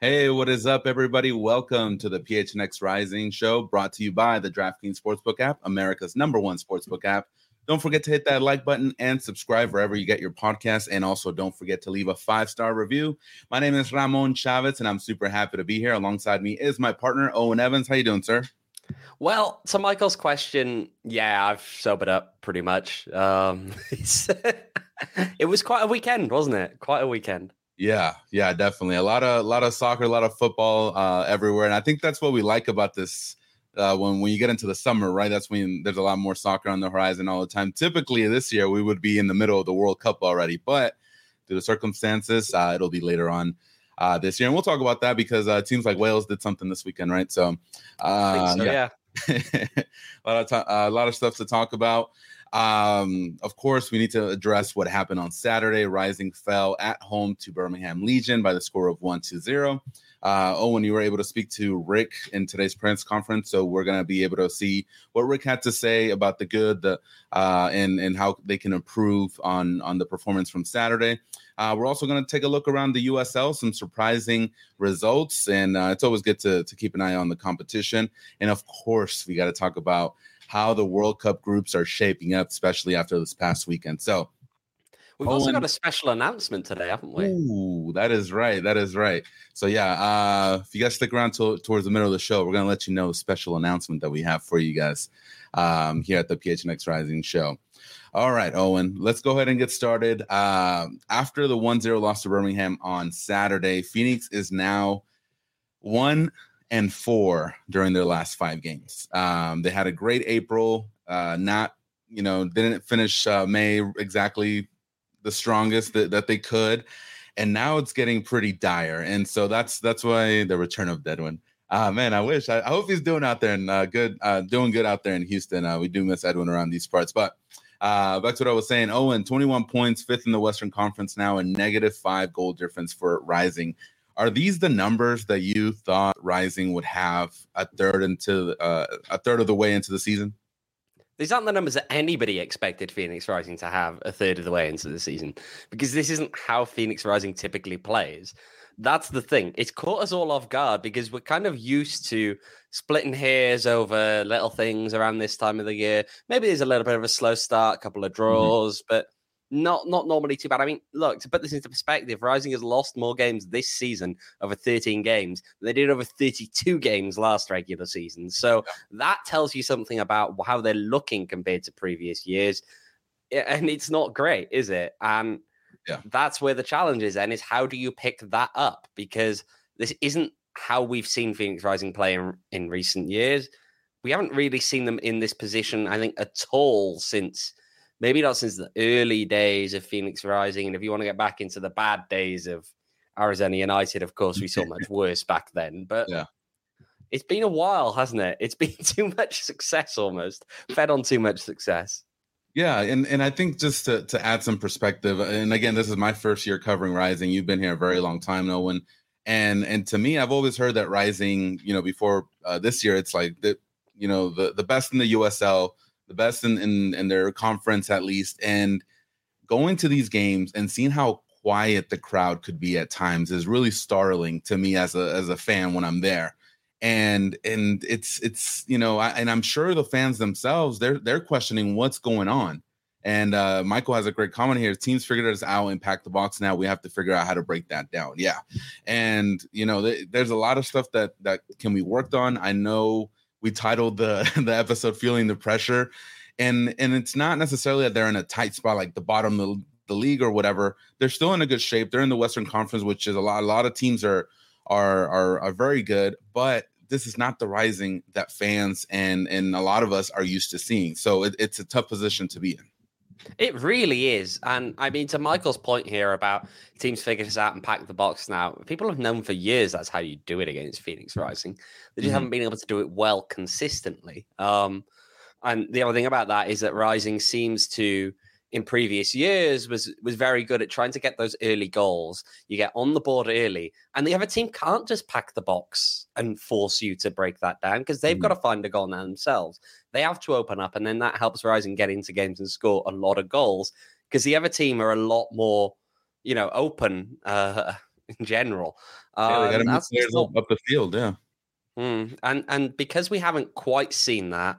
Hey, what is up, everybody? Welcome to the PHNX Rising show, brought to you by the DraftKings Sportsbook app, America's #1 sportsbook app. Don't forget to hit that like button and subscribe wherever you get your podcasts. And also don't forget to leave a 5-star review. My name is Ramon Chavez, and I'm super happy to be here. Alongside me is my partner, Owen Evans. How you doing, sir? Well, to Michael's question, yeah, I've sobered up pretty much. It was quite a weekend, wasn't it? Quite a weekend. Yeah, definitely. A lot of soccer, a lot of football everywhere. And I think that's what we like about this when you get into the summer, right? That's when there's a lot more soccer on the horizon all the time. Typically this year, we would be in the middle of the World Cup already, but due to circumstances, it'll be later on this year. And we'll talk about that because it seems like Wales did something this weekend, right? So, Yeah. a lot of stuff to talk about. Of course, we need to address what happened on Saturday. Rising fell at home to Birmingham Legion by the score of 1-0. Owen, you were able to speak to Rick in today's press conference, so we're going to be able to see what Rick had to say about the good, and how they can improve on the performance from Saturday. We're also going to take a look around the USL, some surprising results, and it's always good to keep an eye on the competition. And of course, we got to talk about how the World Cup groups are shaping up, especially after this past weekend. So we've also got a special announcement today, haven't we? Ooh, that is right. So yeah, if you guys stick around towards the middle of the show, we're going to let you know a special announcement that we have for you guys here at the PHNX Rising show. All right, Owen, let's go ahead and get started. After the 1-0 loss to Birmingham on Saturday, Phoenix is now 1-4 during their last 5 games. They had a great April, didn't finish May exactly the strongest that they could. And now it's getting pretty dire. And so that's why the return of Edwin. Man, I hope he's doing out there and doing good out there in Houston. We do miss Edwin around these parts. But back to what I was saying, Owen, 21 points, 5th in the Western Conference now, and -5 goal difference for Rising. Are these the numbers that you thought Rising would have a third of the way into the season? These aren't the numbers that anybody expected Phoenix Rising to have a third of the way into the season, because this isn't how Phoenix Rising typically plays. That's the thing. It's caught us all off guard because we're kind of used to splitting hairs over little things around this time of the year. Maybe there's a little bit of a slow start, a couple of draws, but not normally too bad. I mean, look, to put this into perspective, Rising has lost more games this season, over 13 games, than they did over 32 games last regular season. So that tells you something about how they're looking compared to previous years. And it's not great, is it? And that's where the challenge is, and is how do you pick that up? Because this isn't how we've seen Phoenix Rising play in recent years. We haven't really seen them in this position, I think, at all since... Maybe not since the early days of Phoenix Rising. And if you want to get back into the bad days of Arizona United, of course, we saw much worse back then. But It's been a while, hasn't it? It's been too much success almost. Fed on too much success. Yeah, and I think just to add some perspective, and again, this is my first year covering Rising. You've been here a very long time, Owen. And to me, I've always heard that Rising, before this year, it's like the best in the USL, the best in their conference at least, and going to these games and seeing how quiet the crowd could be at times is really startling to me as a fan when I'm there. And it's and I'm sure the fans themselves, they're questioning what's going on. And Michael has a great comment here. Teams figured us out and packed the box. Now we have to figure out how to break that down. Yeah. And there's a lot of stuff that can be worked on. I know we titled the episode "Feeling the Pressure," and it's not necessarily that they're in a tight spot like the bottom of the league or whatever. They're still in a good shape. They're in the Western Conference, which is a lot of teams are very good, but this is not the Rising that fans and a lot of us are used to seeing. So it's a tough position to be in. It really is. And I mean, to Michael's point here about teams figured this out and packed the box now, people have known for years that's how you do it against Phoenix Rising. They just haven't been able to do it well consistently. And the other thing about that is that Rising seems to, in previous years, was very good at trying to get those early goals. You get on the board early, and the other team can't just pack the box and force you to break that down because they've got to find a goal now themselves. They have to open up, and then that helps Rising get into games and score a lot of goals because the other team are a lot more, open in general. Yeah, they got to move That's players just not. up the field. Yeah. And because we haven't quite seen that,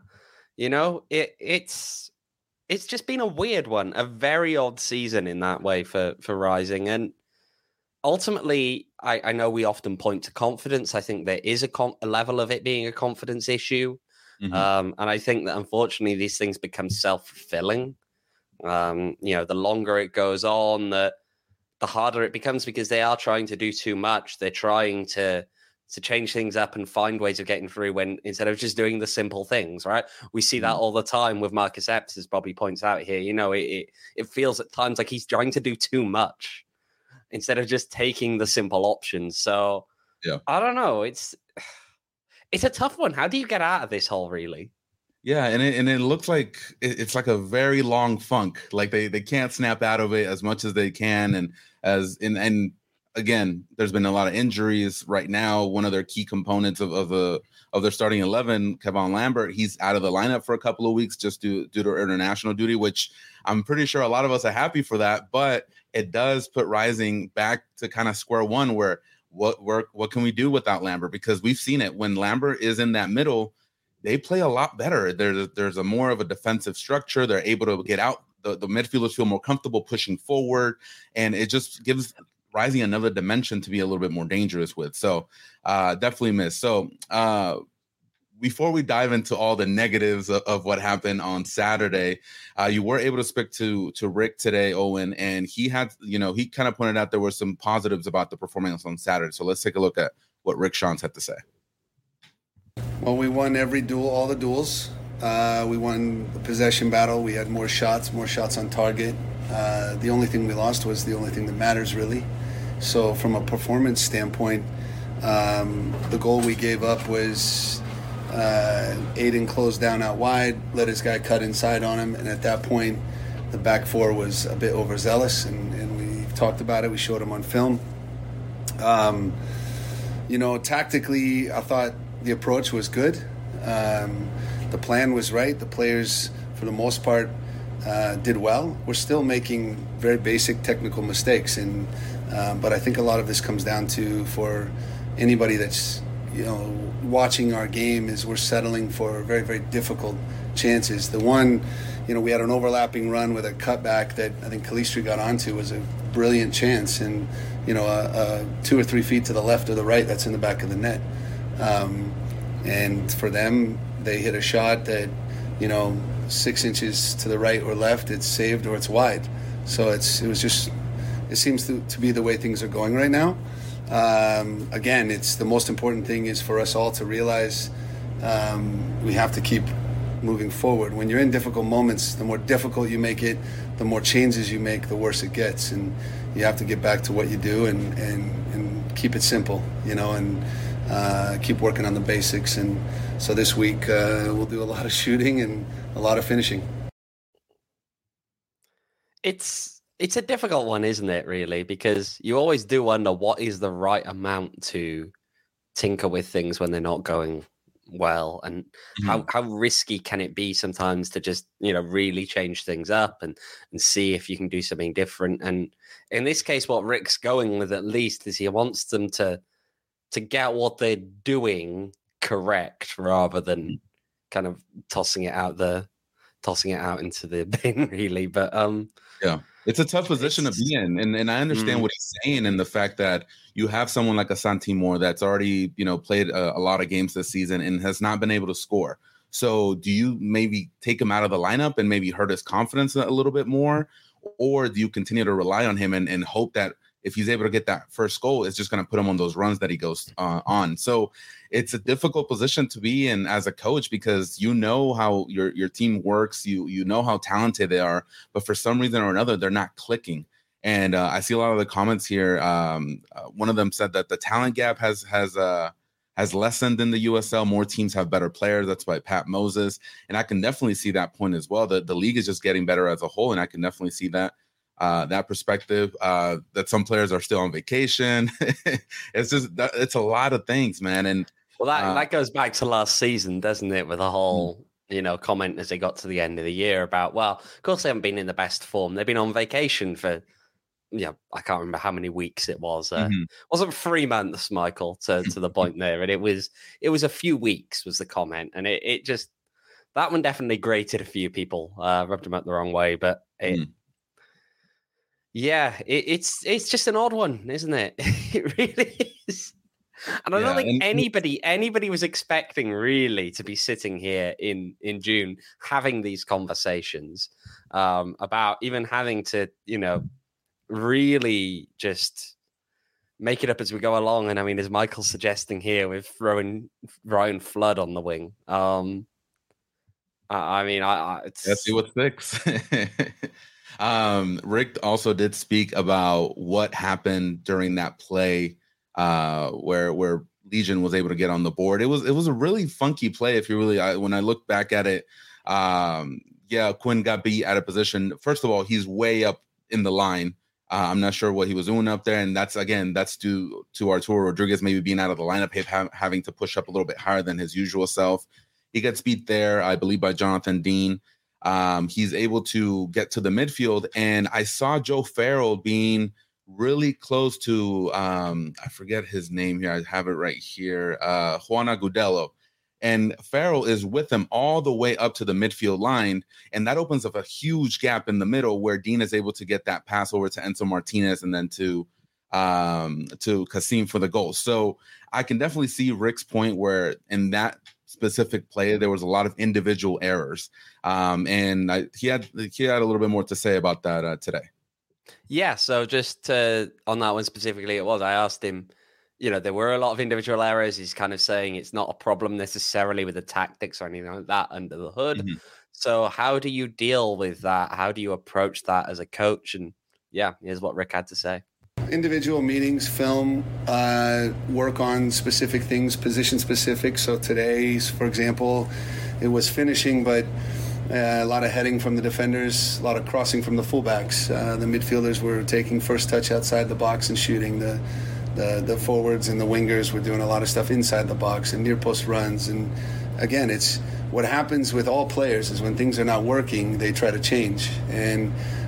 it's just been a weird one, a very odd season in that way for Rising. And ultimately, I know we often point to confidence. I think there is a level of it being a confidence issue. And I think that unfortunately these things become self-fulfilling. The longer it goes on, the harder it becomes because they are trying to do too much. They're trying to change things up and find ways of getting through when instead of just doing the simple things, right? We see that all the time with Marcus Epps, as Bobby points out here. It feels at times like he's trying to do too much instead of just taking the simple options. So yeah, I don't know. It's a tough one. How do you get out of this hole, really? Yeah, and it looks like it's like a very long funk. Like they can't snap out of it as much as they can, and again, there's been a lot of injuries right now. One of their key components of their starting 11, Kevon Lambert, he's out of the lineup for a couple of weeks just due to international duty, which I'm pretty sure a lot of us are happy for that. But it does put Rising back to kind of square one, where what can we do without Lambert? Because we've seen it when Lambert is in that middle. They play a lot better. There's a more of a defensive structure. They're able to get out. The midfielders feel more comfortable pushing forward, and it just gives Rising another dimension to be a little bit more dangerous with. So definitely miss. So before we dive into all the negatives of what happened on Saturday, you were able to speak to Rick today, Owen, and he had, he kind of pointed out there were some positives about the performance on Saturday. So let's take a look at what Rick Schantz had to say. Well, we won every duel, all the duels. We won the possession battle. We had more shots on target. The only thing we lost was the only thing that matters, really. So from a performance standpoint, the goal we gave up was Aiden closed down out wide, let his guy cut inside on him, and at that point, the back four was a bit overzealous, and we talked about it. We showed him on film. Tactically, I thought the approach was good. The plan was right. The players, for the most part, did well. We're still making very basic technical mistakes, but I think a lot of this comes down to, for anybody that's watching our game, is we're settling for very, very difficult chances. The one, we had an overlapping run with a cutback that I think Calistri got onto, was a brilliant chance, and 2 or 3 feet to the left or the right, that's in the back of the net. And for them, they hit a shot that, 6 inches to the right or left, it's saved or it's wide. So it seems to be the way things are going right now. Again, it's the most important thing is for us all to realize we have to keep moving forward. When you're in difficult moments, the more difficult you make it, the more changes you make, the worse it gets. And you have to get back to what you do and keep it simple, and keep working on the basics. And so this week we'll do a lot of shooting and a lot of finishing. It's a difficult one, isn't it, really? Because you always do wonder what is the right amount to tinker with things when they're not going well, and how risky can it be sometimes to just really change things up and see if you can do something different. And in this case, what Rick's going with at least is he wants them to get what they're doing correct rather than kind of tossing it out into the bin, really. But yeah, it's a tough position to be in, and I understand what he's saying, and the fact that you have someone like Asante Moore that's already played a lot of games this season and has not been able to score. So do you maybe take him out of the lineup and maybe hurt his confidence a little bit more, or do you continue to rely on him and hope that if he's able to get that first goal, it's just going to put him on those runs that he goes on? So it's a difficult position to be in as a coach, because how your team works, you know how talented they are, but for some reason or another, they're not clicking. And I see a lot of the comments here. One of them said that the talent gap has lessened in the USL. More teams have better players. That's by Pat Moses. And I can definitely see that point as well. The league is just getting better as a whole, and I can definitely see that perspective, that some players are still on vacation. It's a lot of things, man. And that goes back to last season, doesn't it? With the whole, comment as they got to the end of the year about, well, of course they haven't been in the best form. They've been on vacation for I can't remember how many weeks it was. Mhm. Wasn't 3 months, Michael, to the point there. And it was a few weeks was the comment. And it just, that one definitely grated a few people, rubbed them up the wrong way. But it's just an odd one, isn't it? It really is. And I don't think anybody was expecting really to be sitting here in June having these conversations about even having to, really just make it up as we go along. And I mean, as Michael's suggesting here, with throwing Ryan Flood on the wing, let's see what sticks. Rick also did speak about what happened during that play where Legion was able to get on the board. It was a really funky play. If you really, when I look back at it, Quinn got beat out of position. First of all, he's way up in the line. I'm not sure what he was doing up there, and that's due to Arturo Rodriguez maybe being out of the lineup, having to push up a little bit higher than his usual self. He gets beat there, I believe, by Jonathan Dean. He's able to get to the midfield, and I saw Joe Farrell being really close to I forget his name here. I have it right here. Juan Agudelo. And Farrell is with him all the way up to the midfield line. And that opens up a huge gap in the middle where Dean is able to get that pass over to Enzo Martinez and then to Kasim for the goal. So I can definitely see Rick's point where in that specific play, there was a lot of individual errors. And he had a little bit more to say about that today. Yeah, so just on that one specifically, I asked him, there were a lot of individual errors. He's kind of saying it's not a problem necessarily with the tactics or anything like that under the hood. Mm-hmm. So how do you deal with that? How do you approach that as a coach? And here's what Rick had to say. Individual meetings, film, work on specific things, position specific. So today, for example, it was finishing, but a lot of heading from the defenders, a lot of crossing from the fullbacks. The midfielders were taking first touch outside the box and shooting. The forwards and the wingers were doing a lot of stuff inside the box and near post runs. And again, it's what happens with all players is when things are not working, they try to change. And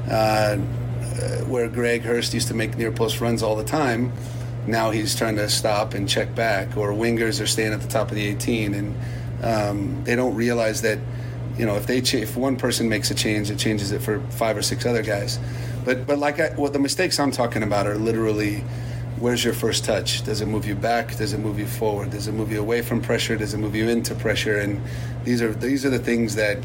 where Greg Hurst used to make near post runs all the time, now he's trying to stop and check back. Or wingers are staying at the top of the 18, and they don't realize that if one person makes a change, it changes it for 5 or 6 other guys. But the mistakes I'm talking about are literally, where's your first touch? Does it move you back? Does it move you forward? Does it move you away from pressure? Does it move you into pressure? And these are the things that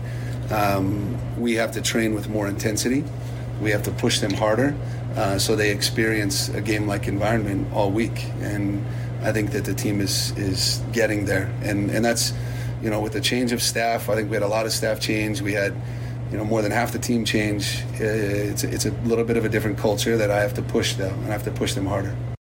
we have to train with more intensity. We have to push them harder so they experience a game-like environment all week. And I think that the team is getting there. And that's, with the change of staff, I think we had a lot of staff change. We had more than half the team change. It's a little bit of a different culture that I have to push, though, and I have to push them harder.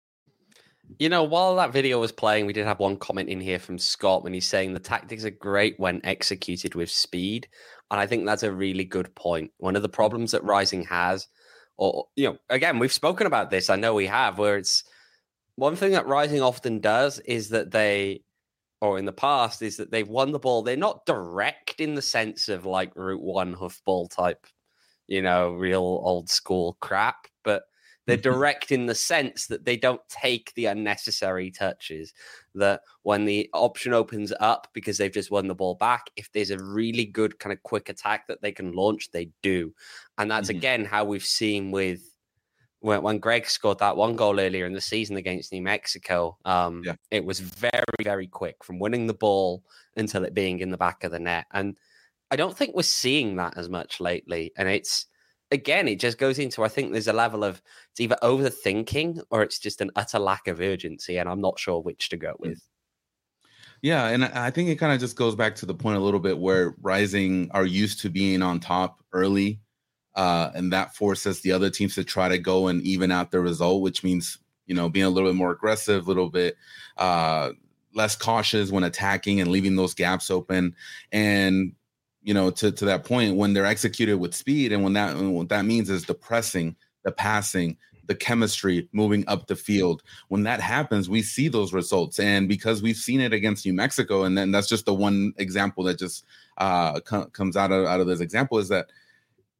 While that video was playing, we did have one comment in here from Scott when he's saying the tactics are great when executed with speed. And I think that's a really good point. One of the problems that Rising has, again, we've spoken about this, I know we have, where it's one thing that Rising often does is that in the past, is that they've won the ball. They're not direct in the sense of like Route 1 hoofball type, real old school crap, but they're direct in the sense that they don't take the unnecessary touches, that when the option opens up because they've just won the ball back, if there's a really good kind of quick attack that they can launch, they do. And that's, again, how we've seen with when Greg scored that one goal earlier in the season against New Mexico. It was very, very quick from winning the ball until it being in the back of the net. And I don't think we're seeing that as much lately. And it just goes into, I think there's a level of, it's either overthinking or it's just an utter lack of urgency. And I'm not sure which to go with. Yeah. And I think it kind of just goes back to the point a little bit where Rising are used to being on top early. And that forces the other teams to try to go and even out the result, which means, being a little bit more aggressive, a little bit less cautious when attacking and leaving those gaps open. And, to that point, when they're executed with speed, and what that means is the pressing, the passing, the chemistry moving up the field. When that happens, we see those results. And because we've seen it against New Mexico, and then that's just the one example that just comes out of this example, is that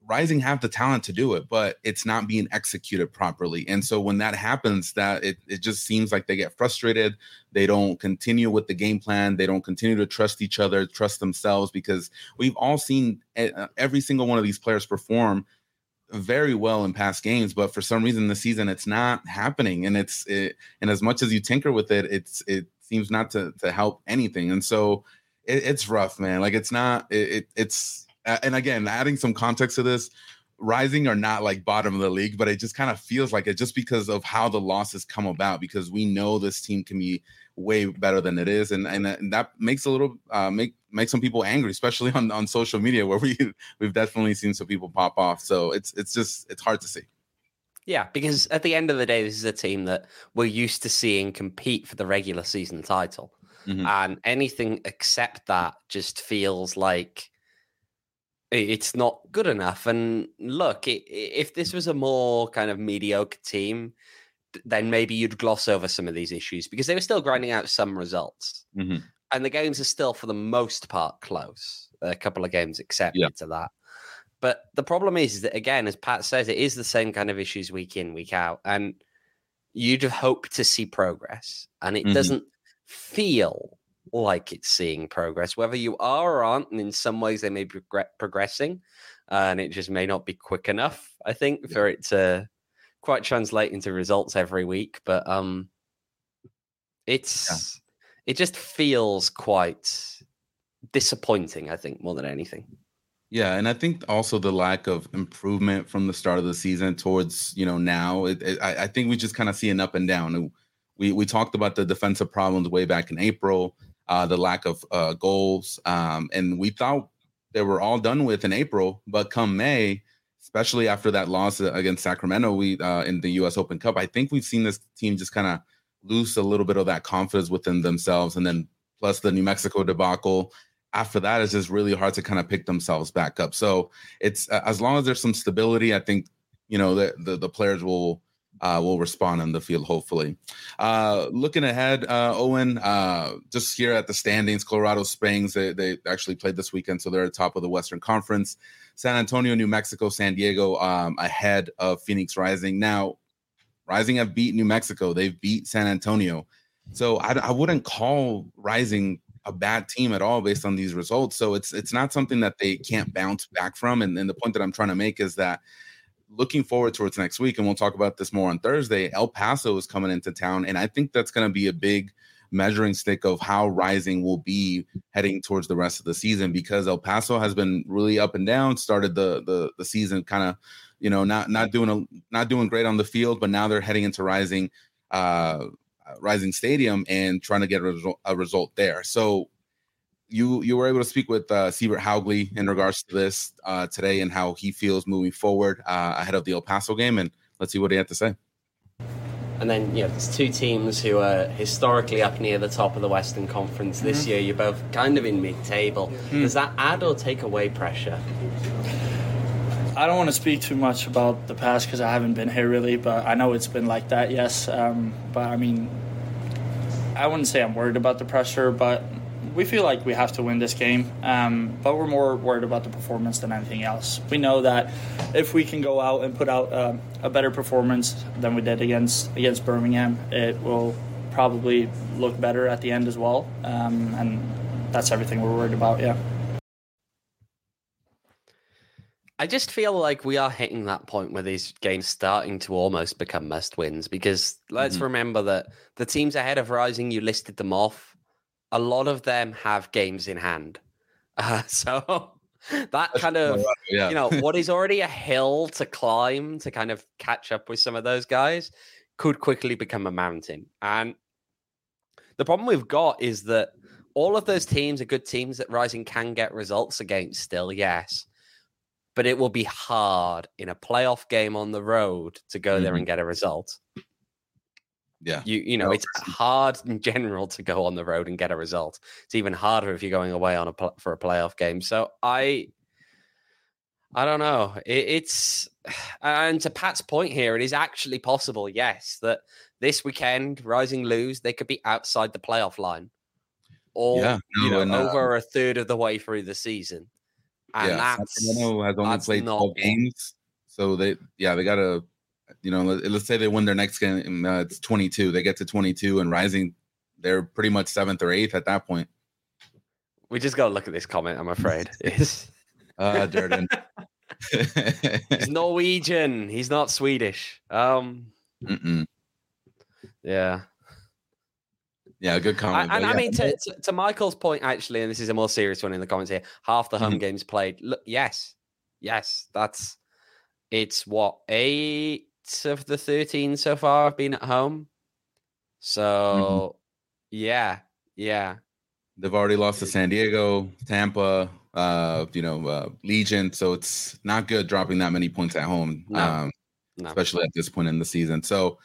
Rising have the talent to do it, but it's not being executed properly. And so when that happens, that it just seems like they get frustrated. They don't continue with the game plan. They don't continue to trust each other, trust themselves, because we've all seen every single one of these players perform very well in past games, but for some reason this season it's not happening. And and as much as you tinker with it, it seems not to help anything. And so it's rough, man. Like it's not, it's, and again, adding some context to this, Rising are not like bottom of the league, but it just kind of feels like it just because of how the losses come about, because we know this team can be way better than it is. And that makes a little, make some people angry, especially on social media, where we've definitely seen some people pop off. So it's hard to see. Yeah, because at the end of the day, this is a team that we're used to seeing compete for the regular season title. Mm-hmm. And anything except that just feels like it's not good enough. And look, if this was a more kind of mediocre team, then maybe you'd gloss over some of these issues, because they were still grinding out some results. Mm-hmm. And the games are still, for the most part, close. A couple of games excepted to that. But the problem is that, again, as Pat says, it is the same kind of issues week in, week out. And you'd hope to see progress. And it doesn't feel like it's seeing progress, whether you are or aren't. And in some ways, they may be progressing. And it just may not be quick enough, I think, for it to quite translate into results every week. But it just feels quite disappointing, I think, more than anything. Yeah, and I think also the lack of improvement from the start of the season towards, now, I think we just kind of see an up and down. We talked about the defensive problems way back in April, the lack of goals, and we thought they were all done with in April. But come May, especially after that loss against Sacramento, in the U.S. Open Cup, I think we've seen this team just kind of lose a little bit of that confidence within themselves, and then plus the New Mexico debacle. After that, it's just really hard to kind of pick themselves back up. So it's as long as there's some stability, I think the players will respond on the field. Hopefully, looking ahead, Owen, just here at the standings, Colorado Springs they actually played this weekend, so they're at the top of the Western Conference. San Antonio, New Mexico, San Diego ahead of Phoenix Rising. Now, Rising have beat New Mexico. They've beat San Antonio. So I wouldn't call Rising a bad team at all based on these results. So it's not something that they can't bounce back from. And the point that I'm trying to make is that looking forward towards next week, and we'll talk about this more on Thursday, El Paso is coming into town. And I think that's going to be a big measuring stick of how Rising will be heading towards the rest of the season, because El Paso has been really up and down, started the season kind of, not doing great on the field, but now they're heading into Rising Stadium and trying to get a result there. So you were able to speak with Siebert Haugley in regards to this today and how he feels moving forward ahead of the El Paso game, and let's see what he had to say. And then, there's two teams who are historically up near the top of the Western Conference. This year, you're both kind of in mid-table. Does that add or take away pressure? I don't want to speak too much about the past because I haven't been here really, but I know it's been like that, yes. But I mean, I wouldn't say I'm worried about the pressure, but we feel like we have to win this game. But we're more worried about the performance than anything else. We know that if we can go out and put out a better performance than we did against Birmingham, it will probably look better at the end as well. And that's everything we're worried about, yeah. I just feel like we are hitting that point where these games starting to almost become must-wins, because let's remember that the teams ahead of Rising, you listed them off, a lot of them have games in hand. So that kind of, what is already a hill to climb to kind of catch up with some of those guys could quickly become a mountain. And the problem we've got is that all of those teams are good teams that Rising can get results against still, yes. But it will be hard in a playoff game on the road to go there and get a result. Yeah. It's hard in general to go on the road and get a result. It's even harder if you're going away on for a playoff game. So I don't know. And to Pat's point here, it is actually possible, yes, that this weekend, Rising lose, they could be outside the playoff line. Or, over a third of the way through the season. And Sacramento has only played 12 games, so they gotta, let's say they win their next game, it's 22. They get to 22, and Rising, they're pretty much 7th or 8th at that point. We just got to look at this comment, I'm afraid. Durden. He's Norwegian. He's not Swedish. Yeah. Yeah, good comment. And I mean, to Michael's point, actually, and this is a more serious one in the comments here, half the home games played. Look, yes, it's what, 8 of the 13 so far have been at home. So, yeah. They've already lost to San Diego, Tampa, Legion. So it's not good dropping that many points at home, no. Especially at this point in the season. So,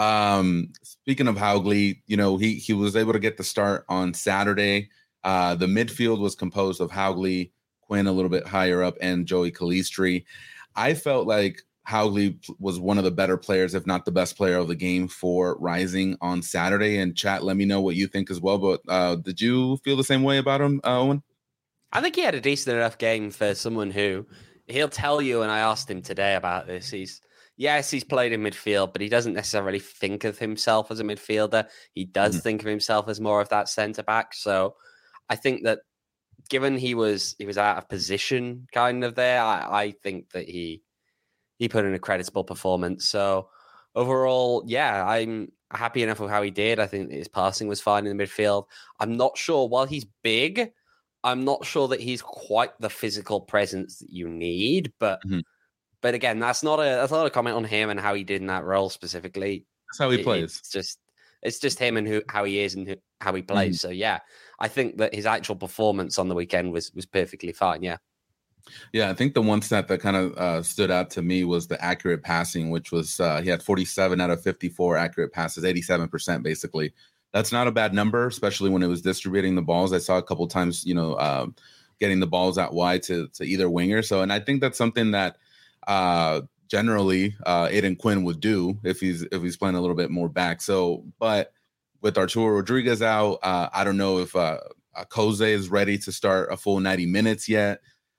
speaking of Hauglie, he was able to get the start on Saturday. The midfield was composed of Hauglie, Quinn a little bit higher up, and Joey Calistri. I felt like Hauglie was one of the better players, if not the best player of the game for Rising on Saturday. And chat, let me know what you think as well. But did you feel the same way about him, Owen? I think he had a decent enough game for someone who he'll tell you, and I asked him today about this. He's played in midfield, but he doesn't necessarily think of himself as a midfielder. He does think of himself as more of that centre back. So I think that given he was out of position kind of there, I think that he put in a creditable performance. So overall, yeah, I'm happy enough with how he did. I think his passing was fine in the midfield. I'm not sure, while he's big, I'm not sure that he's quite the physical presence that you need, but again, that's not a comment on him and how he did in that role specifically. That's how he plays. It's just him and how he is and how he plays. So yeah, I think that his actual performance on the weekend was perfectly fine. Yeah. Yeah, I think the one stat that kind of stood out to me was the accurate passing, which was he had 47 out of 54 accurate passes, 87% basically. That's not a bad number, especially when it was distributing the balls. I saw a couple times, getting the balls out wide to either winger. So, and I think that's something that generally Aiden Quinn would do if he's playing a little bit more back. So, but with Arturo Rodriguez out, I don't know if Koze is ready to start a full 90 minutes yet.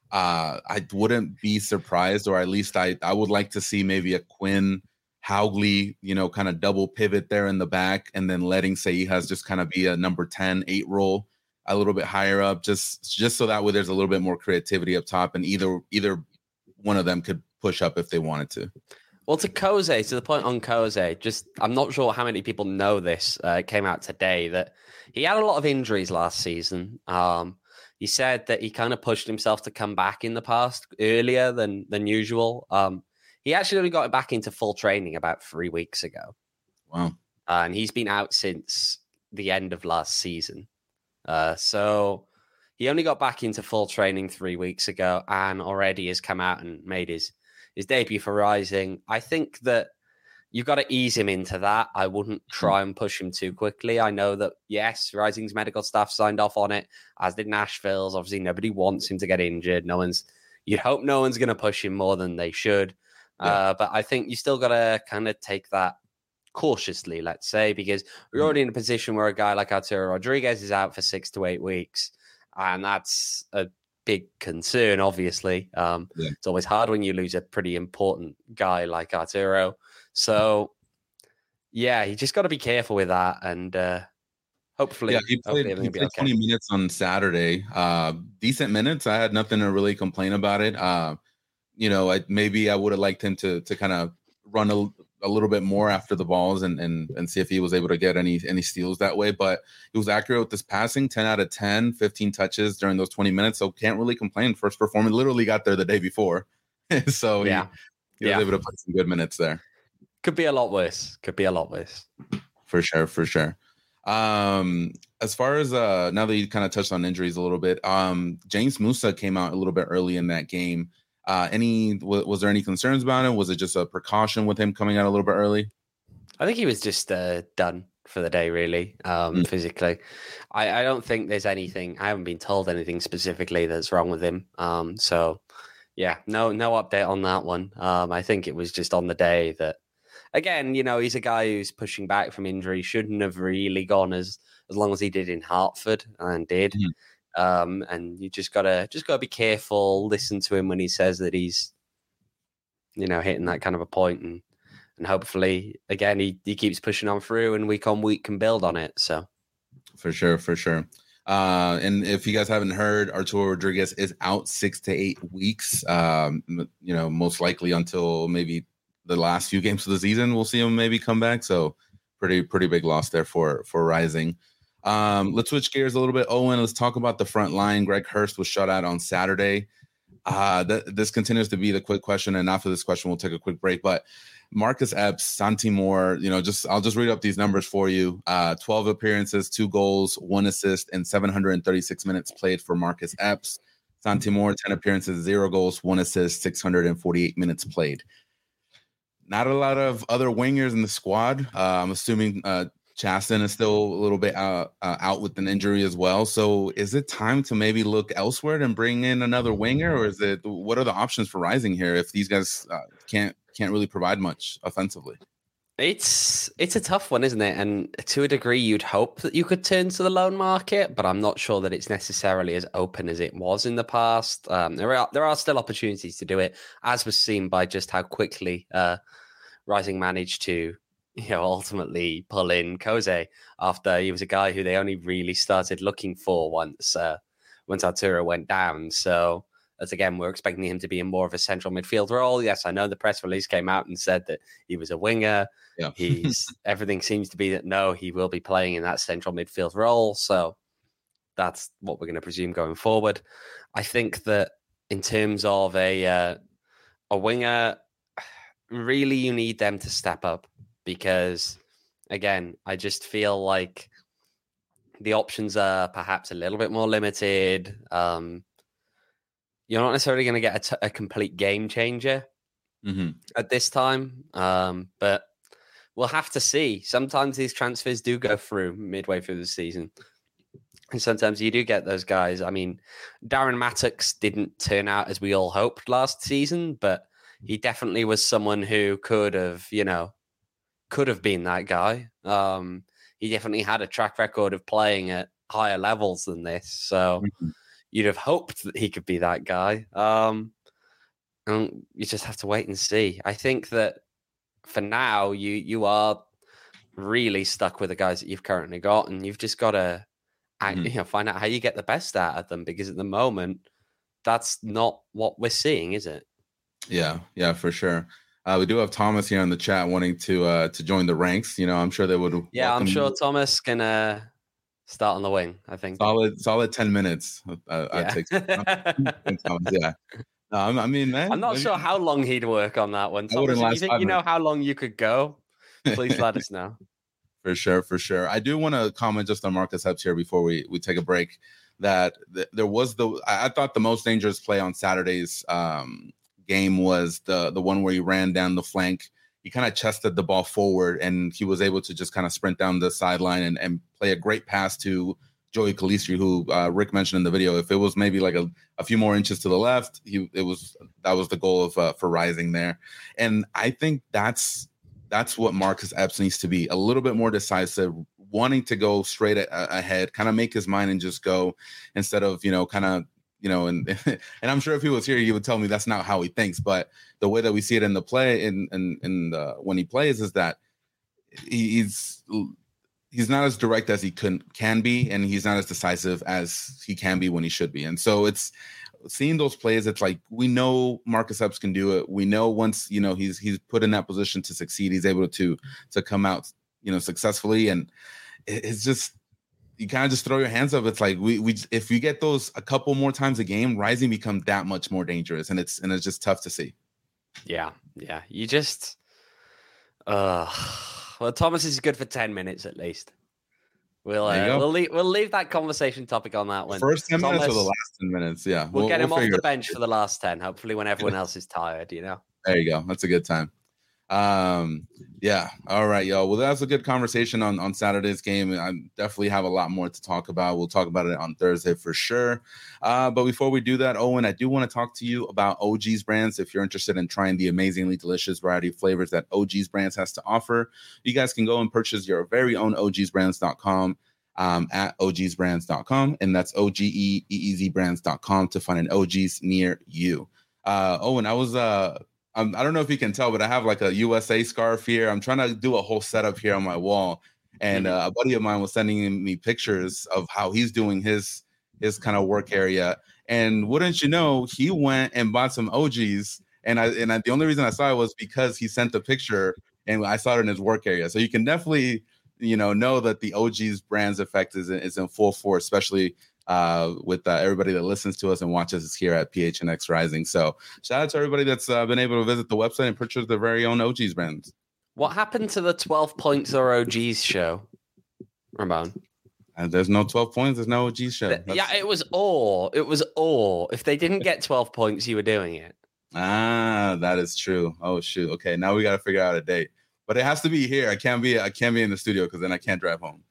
I wouldn't be surprised, or at least I would like to see maybe a Quinn Hauglie, kind of double pivot there in the back, and then letting Seijas just kind of be a number 10, 8 role a little bit higher up, just so that way there's a little bit more creativity up top, and either one of them could push up if they wanted to. Well, to the point on Koze, I'm not sure how many people know this. It came out today that he had a lot of injuries last season. He said that he kind of pushed himself to come back in the past earlier than usual. He actually only got back into full training about 3 weeks ago. Wow. And he's been out since the end of last season. So he only got back into full training 3 weeks ago and already has come out and made his debut for Rising. I think that you've got to ease him into that. I wouldn't try and push him too quickly. I know that, yes, Rising's medical staff signed off on it, as did Nashville's. Obviously, nobody wants him to get injured. You'd hope no one's going to push him more than they should. Yeah. But I think you still got to kind of take that cautiously, let's say, because we're already in a position where a guy like Arturo Rodriguez is out for 6 to 8 weeks. And that's a big concern, obviously. It's always hard when you lose a pretty important guy like Arturo. So, yeah, you just got to be careful with that. And hopefully, he played 20 minutes on Saturday. Decent minutes. I had nothing to really complain about it. Maybe I would have liked him to kind of run a little bit more after the balls and see if he was able to get any steals that way. But he was accurate with his passing, 10 out of 10, 15 touches during those 20 minutes. So can't really complain. First performance, literally got there the day before. So he was able to put some good minutes there. Could be a lot worse. For sure. As far as now that you kind of touched on injuries a little bit, James Musa came out a little bit early in that game. Was there any concerns about him? Was it just a precaution with him coming out a little bit early? I think he was just done for the day, really, physically. I don't think there's anything. I haven't been told anything specifically that's wrong with him. So, yeah, no update on that one. I think it was just on the day that, again, he's a guy who's pushing back from injury. Shouldn't have really gone as long as he did in Hartford and did. And you just gotta be careful. Listen to him when he says that he's, hitting that kind of a point, and hopefully, again, he keeps pushing on through, and week on week can build on it. So, for sure. And if you guys haven't heard, Arturo Rodriguez is out 6 to 8 weeks. Most likely until maybe the last few games of the season, we'll see him maybe come back. So, pretty big loss there for Rising. Let's switch gears a little bit. Owen, let's talk about the front line. Greg Hurst was shut out on Saturday. This continues to be the quick question, and after this question, we'll take a quick break. But Marcus Epps, Santi Moore, I'll just read up these numbers for you. 12 appearances, 2 goals, 1 assist, and 736 minutes played for Marcus Epps. Santi Moore, 10 appearances, 0 goals, 1 assist, 648 minutes played. Not a lot of other wingers in the squad. I'm assuming Chaston is still a little bit out with an injury as well. So is it time to maybe look elsewhere and bring in another winger, or what are the options for Rising here if these guys can't really provide much offensively? It's a tough one, isn't it? And to a degree, you'd hope that you could turn to the loan market, but I'm not sure that it's necessarily as open as it was in the past. There are still opportunities to do it, as was seen by just how quickly Rising managed to ultimately pull in Koze after he was a guy who they only really started looking for once Arturo went down. So that's, again, we're expecting him to be in more of a central midfield role. Yes, I know the press release came out and said that he was a winger. Yeah. Everything seems to be that no, he will be playing in that central midfield role. So that's what we're going to presume going forward. I think that in terms of a winger, really you need them to step up. Because, again, I just feel like the options are perhaps a little bit more limited. You're not necessarily going to get a complete game changer at this time, but we'll have to see. Sometimes these transfers do go through midway through the season, and sometimes you do get those guys. I mean, Darren Mattocks didn't turn out as we all hoped last season, but he definitely was someone who could have been that guy. He definitely had a track record of playing at higher levels than this. So you'd have hoped that he could be that guy. And you just have to wait and see. I think that for now, you are really stuck with the guys that you've currently got, and you've just got to find out how you get the best out of them, because at the moment, that's not what we're seeing, is it? Yeah, for sure. We do have Thomas here in the chat wanting to join the ranks. I'm sure they would. Yeah, I'm sure Thomas can start on the wing. I think solid 10 minutes. I'd take Thomas. Yeah. No, I mean, man, I'm not sure how long he'd work on that one. Thomas, if you think you know how long you could go, please let us know. For sure. I do want to comment just on Marcus Epps here before we take a break. That there was I thought the most dangerous play on Saturday's game was the one where he ran down the flank. He kind of chested the ball forward, and he was able to just kind of sprint down the sideline and play a great pass to Joey Calistri, who Rick mentioned in the video. If it was maybe like a few more inches to the left, that was the goal of for Rising there. And I think that's what Marcus Epps needs to be, a little bit more decisive, wanting to go straight ahead, kind of make his mind and just go, instead of and I'm sure if he was here, he would tell me that's not how he thinks. But the way that we see it in the play, when he plays, is that he's not as direct as he can be, and he's not as decisive as he can be when he should be. And so it's seeing those plays. It's like, we know Marcus Epps can do it. We know once he's put in that position to succeed, he's able to come out successfully. And it's just, you kind of just throw your hands up. It's like we if you get those a couple more times a game, Rising becomes that much more dangerous, and it's just tough to see. Yeah. You just well, Thomas is good for 10 minutes at least. We'll leave that conversation topic on that one. First 10 minutes or the last 10 minutes? Yeah, we'll get him off the bench for the last 10. Hopefully, when everyone else is tired, There you go. That's a good time. Yeah. All right, y'all. Well, that was a good conversation on Saturday's game. I definitely have a lot more to talk about. We'll talk about it on Thursday for sure. But before we do that, Owen, I do want to talk to you about OG's Brands. If you're interested in trying the amazingly delicious variety of flavors that OG's Brands has to offer, you guys can go and purchase your very own OGsBrands.com at ogsbrands.com, and that's OGEEEZbrands.com to find an OGs near you. Owen, I was I don't know if you can tell, but I have like a USA scarf here. I'm trying to do a whole setup here on my wall, and a buddy of mine was sending me pictures of how he's doing his kind of work area. And wouldn't you know, he went and bought some OGs, and the only reason I saw it was because he sent the picture, and I saw it in his work area. So you can definitely know that the OGs brands effect is in full force, especially with everybody that listens to us and watches us here at PHNX Rising. So shout out to everybody that's been able to visit the website and purchase their very own OGs brands. What happened to the 12 points or OGs show, Ramon? There's no 12 points. There's no OG show. Yeah, it was all. If they didn't get 12 points, you were doing it. That is true. Oh shoot. Okay, now we got to figure out a date, but it has to be here. I can't be in the studio because then I can't drive home.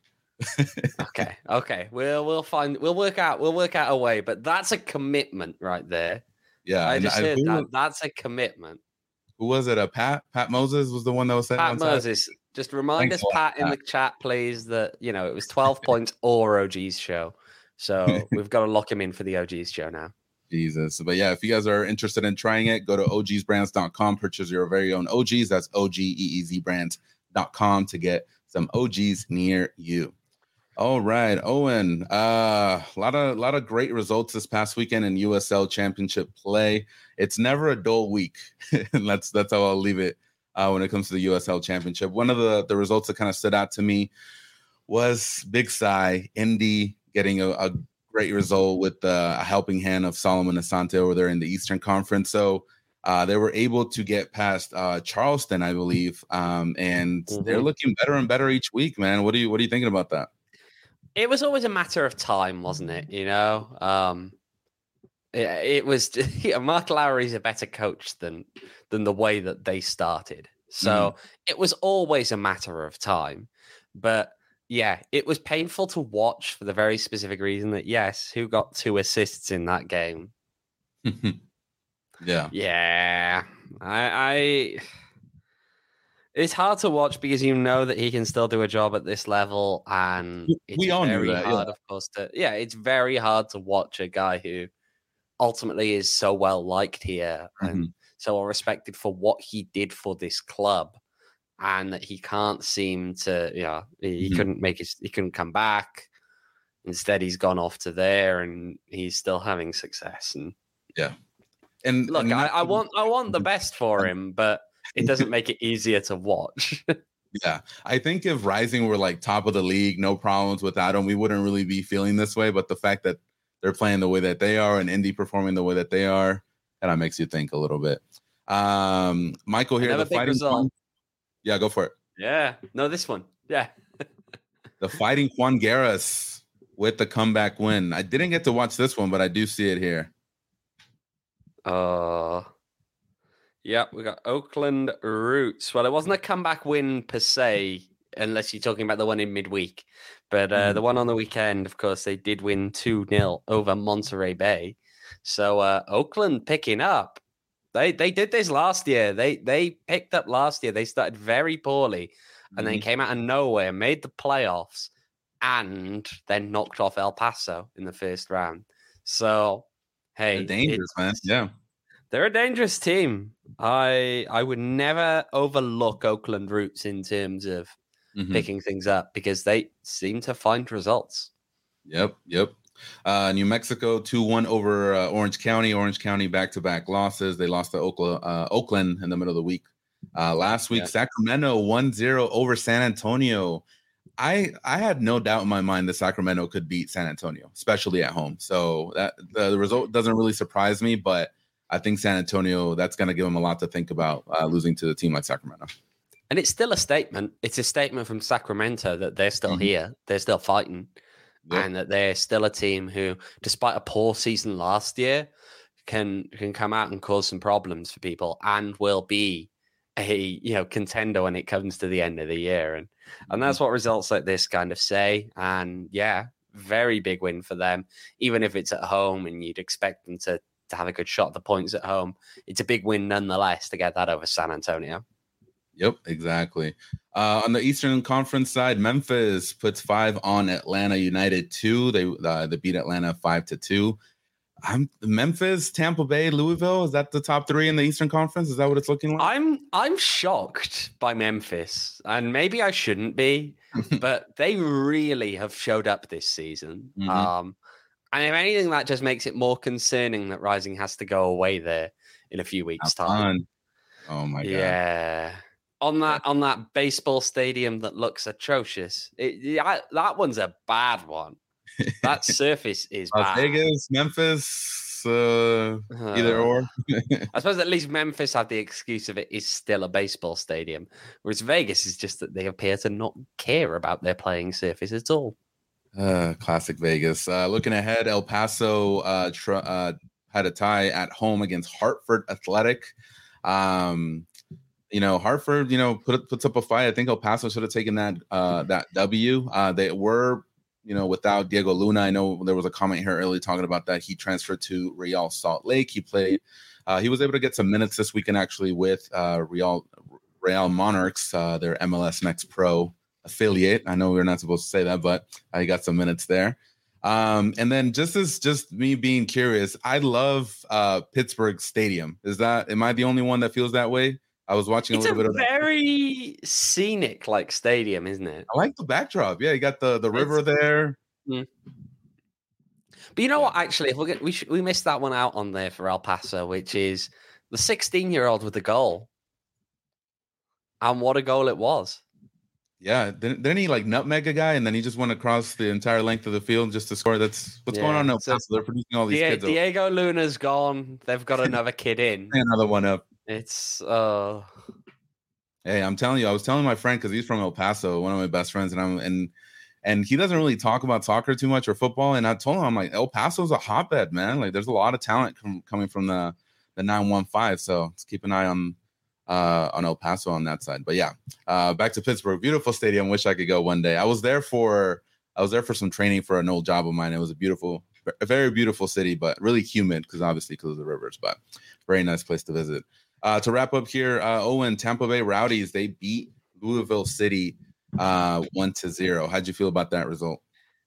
Okay. We'll work out a way. But that's a commitment right there. Yeah, I just heard that. That's a commitment. Who was it? Pat Moses was the one that was saying. Pat Moses. Just remind us, Pat, in the chat, please, that it was 12 points or OG's show. So we've got to lock him in for the OG's show now. Jesus. But yeah, if you guys are interested in trying it, go to ogsbrands.com, purchase your very own OGs. That's OGEEZbrands.com to get some OGs near you. All right, Owen. A lot of great results this past weekend in USL Championship play. It's never a dull week. That's how I'll leave it when it comes to the USL Championship. One of the results that kind of stood out to me was Big Cy, Indy getting a great result with a helping hand of Solomon Asante over there in the Eastern Conference. So they were able to get past Charleston, I believe, and they're looking better and better each week, man. What are you thinking about that? It was always a matter of time, wasn't it? It was. Mark Lowry's a better coach than the way that they started, so it was always a matter of time. But yeah, it was painful to watch for the very specific reason that who got 2 assists in that game? Yeah. It's hard to watch because you know that he can still do a job at this level, and it's very hard, of course. It's very hard to watch a guy who ultimately is so well liked here and so well respected for what he did for this club, and that he can't seem to, he couldn't come back. Instead, he's gone off to there, and he's still having success. And look, I want the best for him, but it doesn't make it easier to watch. Yeah. I think if Rising were like top of the league, no problems without him, we wouldn't really be feeling this way. But the fact that they're playing the way that they are and Indy performing the way that they are, that makes you think a little bit. Michael here, the Fighting Juan. Yeah, go for it. Yeah. No, this one. Yeah. The Fighting Juan Guerras with the comeback win. I didn't get to watch this one, but I do see it here. Yeah, we got Oakland Roots. Well, it wasn't a comeback win per se, unless you're talking about the one in midweek. But the one on the weekend, of course, they did win 2-0 over Monterey Bay. So Oakland picking up. They did this last year. They picked up last year. They started very poorly and then came out of nowhere, made the playoffs, and then knocked off El Paso in the first round. So, hey. They're dangerous, man. Yeah. They're a dangerous team. I would never overlook Oakland Roots in terms of picking things up because they seem to find results. Yep. New Mexico 2-1 over Orange County. Orange County back-to-back losses. They lost to Oakland in the middle of the week. Last week, Sacramento 1-0 over San Antonio. I had no doubt in my mind that Sacramento could beat San Antonio, especially at home. So that the result doesn't really surprise me, but I think San Antonio, that's going to give them a lot to think about losing to a team like Sacramento. And it's still a statement. It's a statement from Sacramento that they're still here. They're still fighting. Yep. And that they're still a team who, despite a poor season last year, can come out and cause some problems for people and will be a contender when it comes to the end of the year. And that's what results like this kind of say. And very big win for them. Even if it's at home and you'd expect them to have a good shot at the points at home, it's a big win nonetheless to get that over San Antonio. Yep, exactly. On the Eastern Conference side, Memphis puts 5 on Atlanta United 2. They beat Atlanta 5-2. Memphis, Tampa Bay, Louisville. Is that the top 3 in the Eastern Conference? Is that what it's looking like? I'm shocked by Memphis, and maybe I shouldn't be, but they really have showed up this season. Mm-hmm. And if anything, that just makes it more concerning that Rising has to go away there in a few weeks' time. Oh my god! Yeah, on that baseball stadium that looks atrocious. That one's a bad one. That surface is Las bad. Vegas, Memphis, either or. I suppose at least Memphis had the excuse of it is still a baseball stadium, whereas Vegas is just that they appear to not care about their playing surface at all. Classic Vegas. Looking ahead, El Paso had a tie at home against Hartford Athletic. Hartford, puts up a fight. I think El Paso should have taken that W. They were, without Diego Luna. I know there was a comment here earlier talking about that. He transferred to Real Salt Lake. He played. He was able to get some minutes this weekend actually with Real Monarchs, their MLS Next Pro affiliate. I know we're not supposed to say that, but he got some minutes there. And then just me being curious, I love Pittsburgh Stadium. Am I the only one that feels that way? I was watching a little bit of that. It's a very scenic like stadium, isn't it? I like the backdrop. Yeah, you got the river there. Mm. But you know what? Actually, if we missed that one out on there for El Paso, which is the 16-year-old with the goal, and what a goal it was! Yeah, didn't he like nutmeg a guy, and then he just went across the entire length of the field just to score? That's what's going on now. So they're producing all these kids. Diego Luna's gone. They've got another kid in. Another one up. It's Hey, I'm telling you, I was telling my friend because he's from El Paso, one of my best friends, and he doesn't really talk about soccer too much or football. And I told him, I'm like, El Paso's a hotbed, man. Like, there's a lot of talent coming from the 915. So let's keep an eye on El Paso on that side. But yeah, back to Pittsburgh. Beautiful stadium. Wish I could go one day. I was there for some training for an old job of mine. It was a very beautiful city, but really humid because of the rivers. But very nice place to visit. To wrap up here, Owen, Tampa Bay Rowdies, they beat Louisville City 1-0. How'd you feel about that result?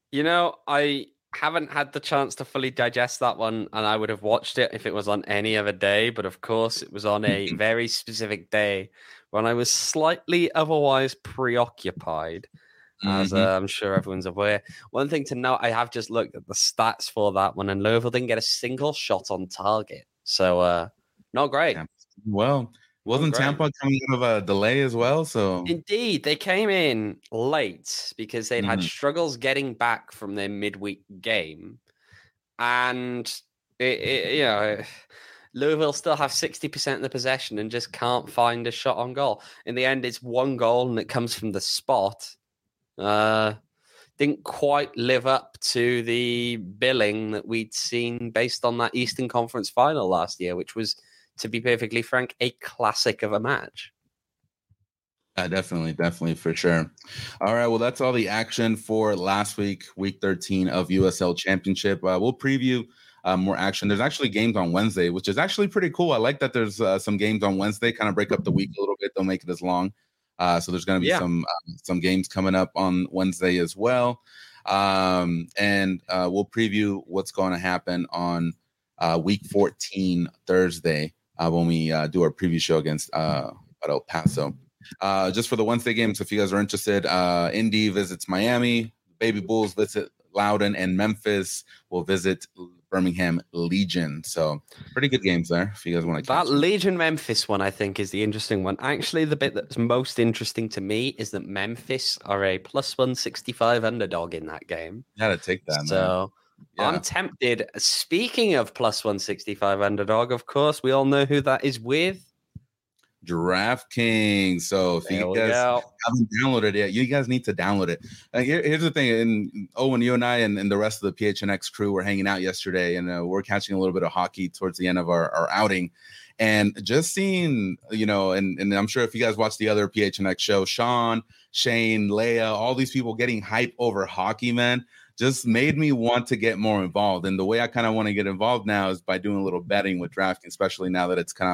I haven't had the chance to fully digest that one, and I would have watched it if it was on any other day. But of course, it was on a very specific day when I was slightly otherwise preoccupied, as I'm sure everyone's aware. One thing to note, I have just looked at the stats for that one, and Louisville didn't get a single shot on target. So, not great. Yeah. Well, wasn't Tampa coming out of a delay as well? So indeed, they came in late because they'd had struggles getting back from their midweek game, and Louisville still have 60% of the possession and just can't find a shot on goal. In the end, it's one goal and it comes from the spot. Didn't quite live up to the billing that we'd seen based on that Eastern Conference final last year, which was, to be perfectly frank, a classic of a match. Definitely, for sure. All right, well, that's all the action for last week 13 of USL Championship. We'll preview more action. There's actually games on Wednesday, which is actually pretty cool. I like that there's some games on Wednesday, kind of break up the week a little bit. Don't make it as long. So there's going to be some games coming up on Wednesday as well. And we'll preview what's going to happen on week 14 Thursday when we do our preview show against El Paso. Just for the Wednesday games, if you guys are interested, Indy visits Miami, Baby Bulls visit Loudoun, and Memphis will visit Birmingham Legion. So pretty good games there if you guys want to catch that them. Legion Memphis one, I think, is the interesting one. Actually, the bit that's most interesting to me is that Memphis are a +165 underdog in that game. Gotta take that, so man. I'm tempted. Speaking of +165 underdog, of course, we all know who that is with. DraftKings. So if you guys haven't downloaded it yet, you guys need to download it. Here's the thing, and Owen, you and I and the rest of the PHNX crew were hanging out yesterday, and we're catching a little bit of hockey towards the end of our outing, and just seeing, and I'm sure if you guys watch the other PHNX show, Sean, Shane, Leia, all these people getting hype over hockey, man, just made me want to get more involved. And the way I kind of want to get involved now is by doing a little betting with DraftKings, especially now that it's kind of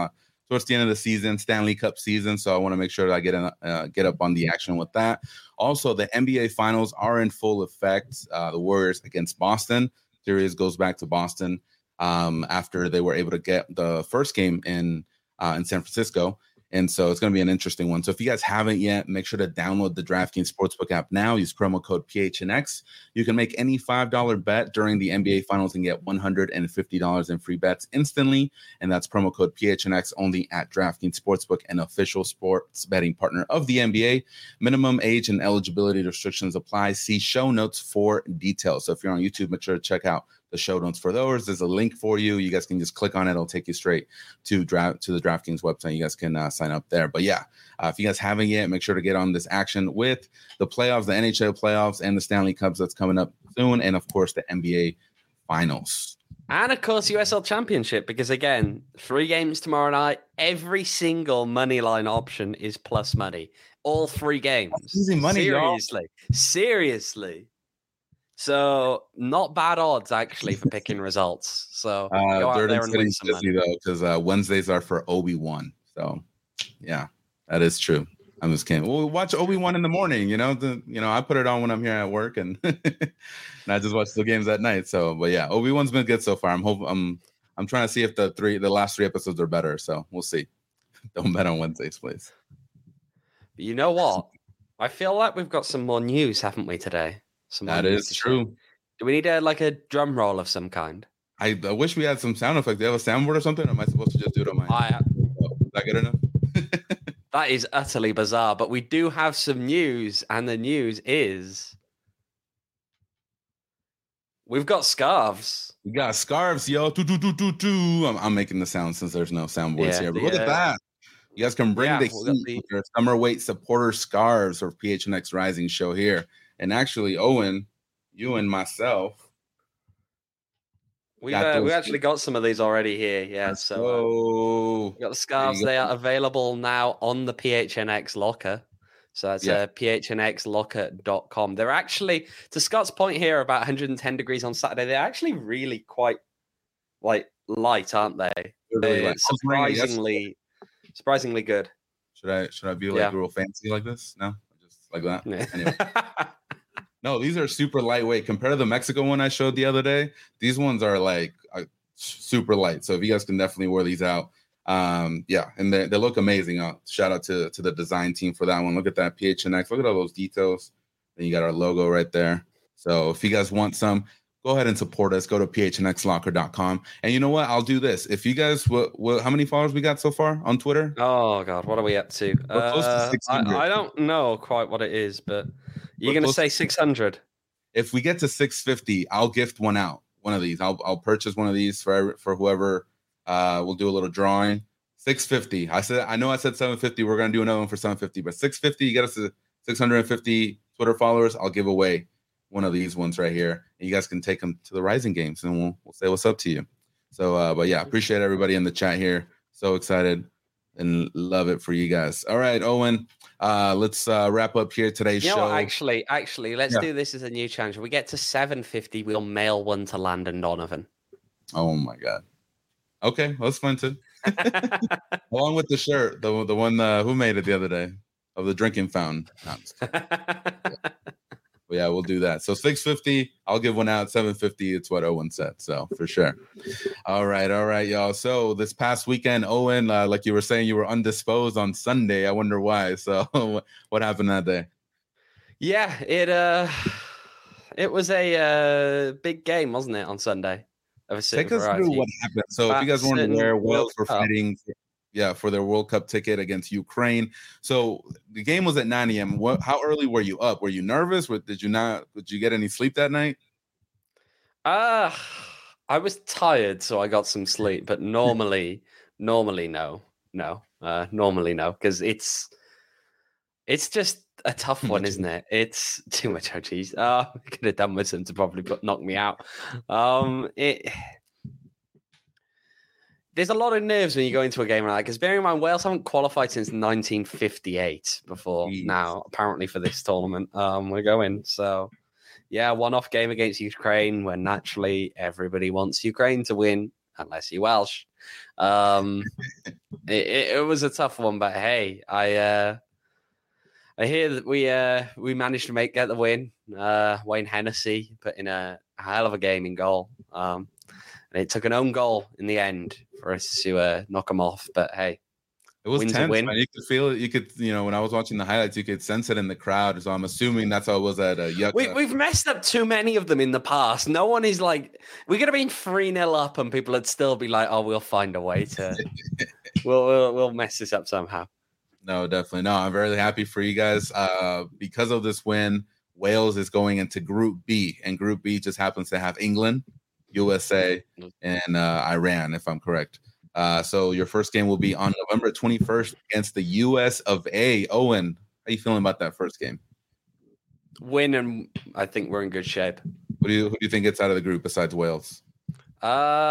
towards the end of the season, Stanley Cup season. So I want to make sure that I get up on the action with that. Also, the NBA Finals are in full effect. The Warriors against Boston. Series goes back to Boston after they were able to get the first game in San Francisco. And so it's going to be an interesting one. So if you guys haven't yet, make sure to download the DraftKings Sportsbook app now. Use promo code PHNX. You can make any $5 bet during the NBA Finals and get $150 in free bets instantly. And that's promo code PHNX only at DraftKings Sportsbook, an official sports betting partner of the NBA. Minimum age and eligibility restrictions apply. See show notes for details. So if you're on YouTube, make sure to check out the show notes for those. There's a link for you. You guys can just click on it. It'll take you straight to the DraftKings website. You guys can sign up there. But yeah, if you guys haven't yet, make sure to get on this action with the playoffs, the NHL playoffs, and the Stanley Cups that's coming up soon. And of course, the NBA Finals. And of course, USL Championship, because again, 3 games tomorrow night. Every single money line option is plus money. All 3 games. That's easy money, Seriously. So not bad odds actually for picking results. So go out there and win some money. Though, because Wednesdays are for Obi-Wan. So yeah, that is true. I'm just kidding. We'll watch Obi-Wan in the morning. I put it on when I'm here at work, and and I just watch the games at night. So, but yeah, Obi-Wan's been good so far. I'm trying to see if the last 3 episodes are better. So we'll see. Don't bet on Wednesdays, please. But you know what? I feel like we've got some more news, haven't we, today? That is true. Do we need a drum roll of some kind? I wish we had some sound effect. Do you have a soundboard or something? Or am I supposed to just do it on my? Is that good enough? That is utterly bizarre. But we do have some news, and the news is we've got scarves. We got scarves, yo. I'm making the sound since there's no soundboards here. But look at that. You guys can bring the heat with your summer weight supporter scarves for PHNX Rising show here. And actually, Owen, you and myself, we actually got some of these already here. Yeah, so we got the scarves. They are available now on the PHNX locker. So that's phnxlocker.com. They're actually, to Scott's point here, about 110 degrees on Saturday. They're actually really quite light, aren't they? They're surprisingly good. Should I be real fancy like this? No, just like that. Yeah. Anyway. No, these are super lightweight compared to the Mexico one I showed the other day. These ones are super light. So if you guys can definitely wear these out, and they look amazing. Shout out to the design team for that one. Look at that PHNX. Look at all those details. Then you got our logo right there. So if you guys want some, go ahead and support us. Go to phnxlocker.com. And you know what? I'll do this. If you guys, how many followers we got so far on Twitter? Oh, God. What are we up to? We're close to 600. I don't know quite what it is, but you're going to say 600. If we get to 650, I'll gift one out. One of these. I'll purchase one of these for whoever. We'll do a little drawing. 650. I know I said 750. We're going to do another one for 750. But 650, you get us to 650 Twitter followers. I'll give away one of these ones right here, and you guys can take them to the Rising games, and we'll say what's up to you. So, but yeah, appreciate everybody in the chat here. So excited and love it for you guys. All right, Owen, let's wrap up here today's show. Actually, let's do this as a new challenge. When we get to 750, we'll mail one to Landon Donovan. Oh my God. Okay, well, that's fun too. Along with the shirt, the one who made it the other day of the drinking fountain. No, yeah, we'll do that. So 650, I'll give one out. 750, it's what Owen said. So for sure. All right, y'all. So this past weekend, Owen, like you were saying, you were undisposed on Sunday. I wonder why. So what happened that day? Yeah, it was a big game, wasn't it, on Sunday? Take us through what happened. So if you guys weren't aware, Wales were fighting for their World Cup ticket against Ukraine. So the game was at 9 a.m. How early were you up? Were you nervous? Did you get any sleep that night? I was tired, so I got some sleep. But normally no, because it's just a tough one, isn't it? It's too much OGs. I could have done with some to probably knock me out. There's a lot of nerves when you go into a game like that, because bearing in mind, Wales haven't qualified since 1958 before now, apparently, for this tournament. We're going. So, yeah, one-off game against Ukraine, where naturally everybody wants Ukraine to win, unless you're Welsh. And It was a tough one, but hey, I hear that we managed to get the win. Wayne Hennessy put in a hell of a game in goal, and it took an own goal in the end for us to knock him off. But hey, it was win's tense, a win. man. You could feel it. You could, when I was watching the highlights, you could sense it in the crowd. So I'm assuming that's how it was at Yucca. We've messed up too many of them in the past. No one is like, we could have been 3-0 up and people would still be like, oh, we'll find a way to, we'll mess this up somehow. No, definitely. No, I'm very happy for you guys. Because of this win, Wales is going into Group B, and Group B just happens to have England, USA, and Iran, if I'm correct. So your first game will be on November 21st against the US of A. Owen, how you feeling about that first game? Win, and I think we're in good shape. Who do you think gets out of the group besides Wales? You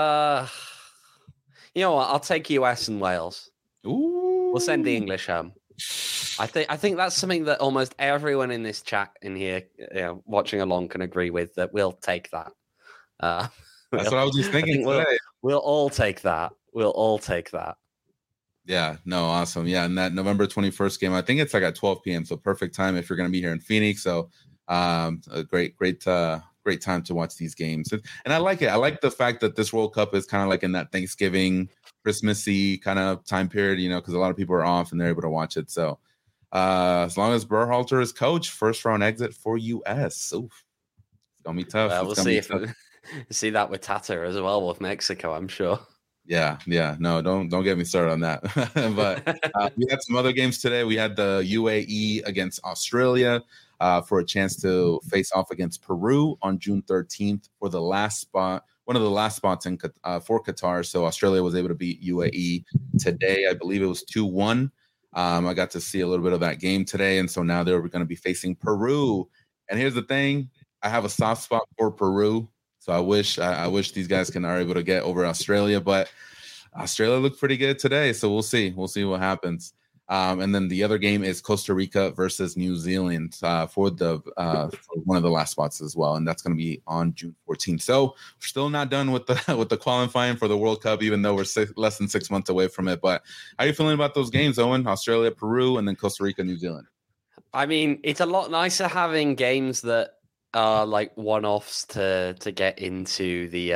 know what? I'll take US and Wales. Ooh. We'll send the English home. I think that's something that almost everyone in this chat in here, watching along, can agree with. That we'll take that. That's what I was just thinking today. We'll all take that. We'll all take that. Yeah, no, awesome. Yeah, and that November 21st game, I think it's like at 12 p.m. So perfect time if you're going to be here in Phoenix. So a great time to watch these games. And I like it. I like the fact that this World Cup is kind of like in that Thanksgiving, Christmassy kind of time period, because a lot of people are off and they're able to watch it. So as long as Berhalter is coach, first round exit for US. Oof. It's going to be tough. Well, we'll see if we see that with Tata as well with Mexico, I'm sure. Yeah. No, don't get me started on that. But we had some other games today. We had the UAE against Australia for a chance to face off against Peru on June 13th for the last spot, one of the last spots for Qatar. So Australia was able to beat UAE today. I believe it was 2-1. I got to see a little bit of that game today, and so now they're going to be facing Peru. And here's the thing: I have a soft spot for Peru. So I wish these guys are able to get over Australia, but Australia looked pretty good today. So we'll see what happens. And then the other game is Costa Rica versus New Zealand for one of the last spots as well, and that's going to be on June 14th. So we're still not done with the qualifying for the World Cup, even though we're less than 6 months away from it. But how are you feeling about those games, Owen? Australia, Peru, and then Costa Rica, New Zealand. I mean, it's a lot nicer having games that are like one-offs to get into the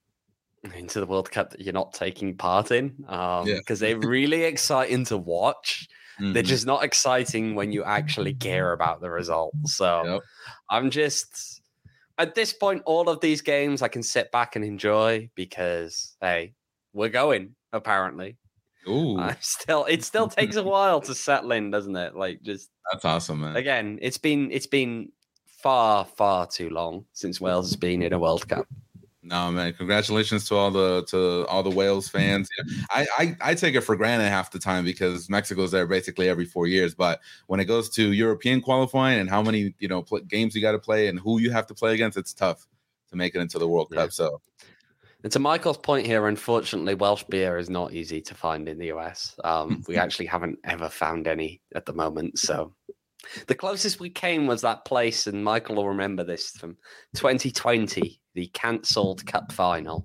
World Cup that you're not taking part in, because they're really exciting to watch. Mm-hmm. They're just not exciting when you actually care about the result. So I'm just, at this point, all of these games I can sit back and enjoy because, hey, we're going, apparently. Ooh. It still takes a while to settle in, doesn't it? That's awesome, man. Again, it's been far, far too long since Wales has been in a World Cup. No, man, congratulations to all the Wales fans. I take it for granted half the time because Mexico's there basically every 4 years. But when it goes to European qualifying and how many games you got to play and who you have to play against, it's tough to make it into the World Cup. So, and to Michael's point here, unfortunately, Welsh beer is not easy to find in the US. We actually haven't ever found any at the moment. So the closest we came was that place, and Michael will remember this from 2020, the cancelled Cup final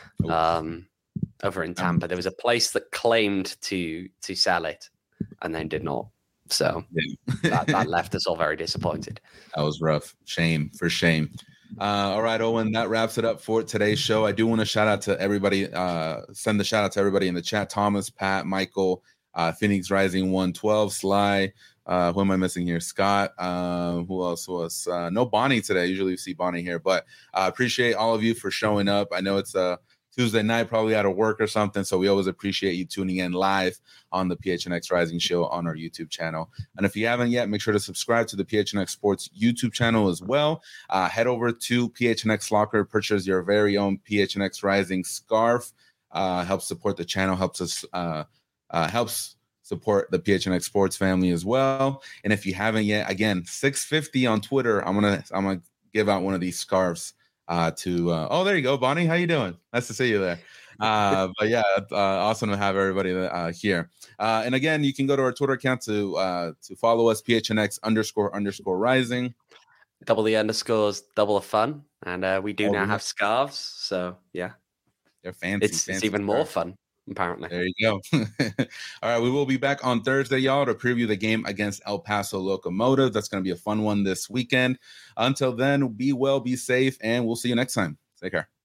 over in Tampa. There was a place that claimed to sell it and then did not. So that left us all very disappointed. That was rough. Shame. All right, Owen, that wraps it up for today's show. I do want to shout out to everybody, send the shout out to everybody in the chat: Thomas, Pat, Michael, Phoenix Rising 112, Sly. Who am I missing here? Scott. Who else was? No Bonnie today. Usually you see Bonnie here, but I appreciate all of you for showing up. I know it's a Tuesday night, probably out of work or something, so we always appreciate you tuning in live on the PHNX Rising show on our YouTube channel. And if you haven't yet, make sure to subscribe to the PHNX Sports YouTube channel as well. Head over to PHNX Locker, purchase your very own PHNX Rising scarf. Helps support the channel, helps support the PHNX Sports family as well. And if you haven't yet, again, $6.50 on Twitter. I'm gonna give out one of these scarves to there you go, Bonnie. How you doing? Nice to see you there. But yeah, awesome to have everybody here. And again, you can go to our Twitter account to follow us, PHNX__rising. Double the underscores, double the fun. And we do now have scarves. So yeah. They're fancy. It's even more fun. apparently. There you go. All right, we will be back on Thursday, y'all, to preview the game against El Paso Locomotive. That's going to be a fun one this weekend. Until then, be well, be safe, and we'll see you next time. Take care.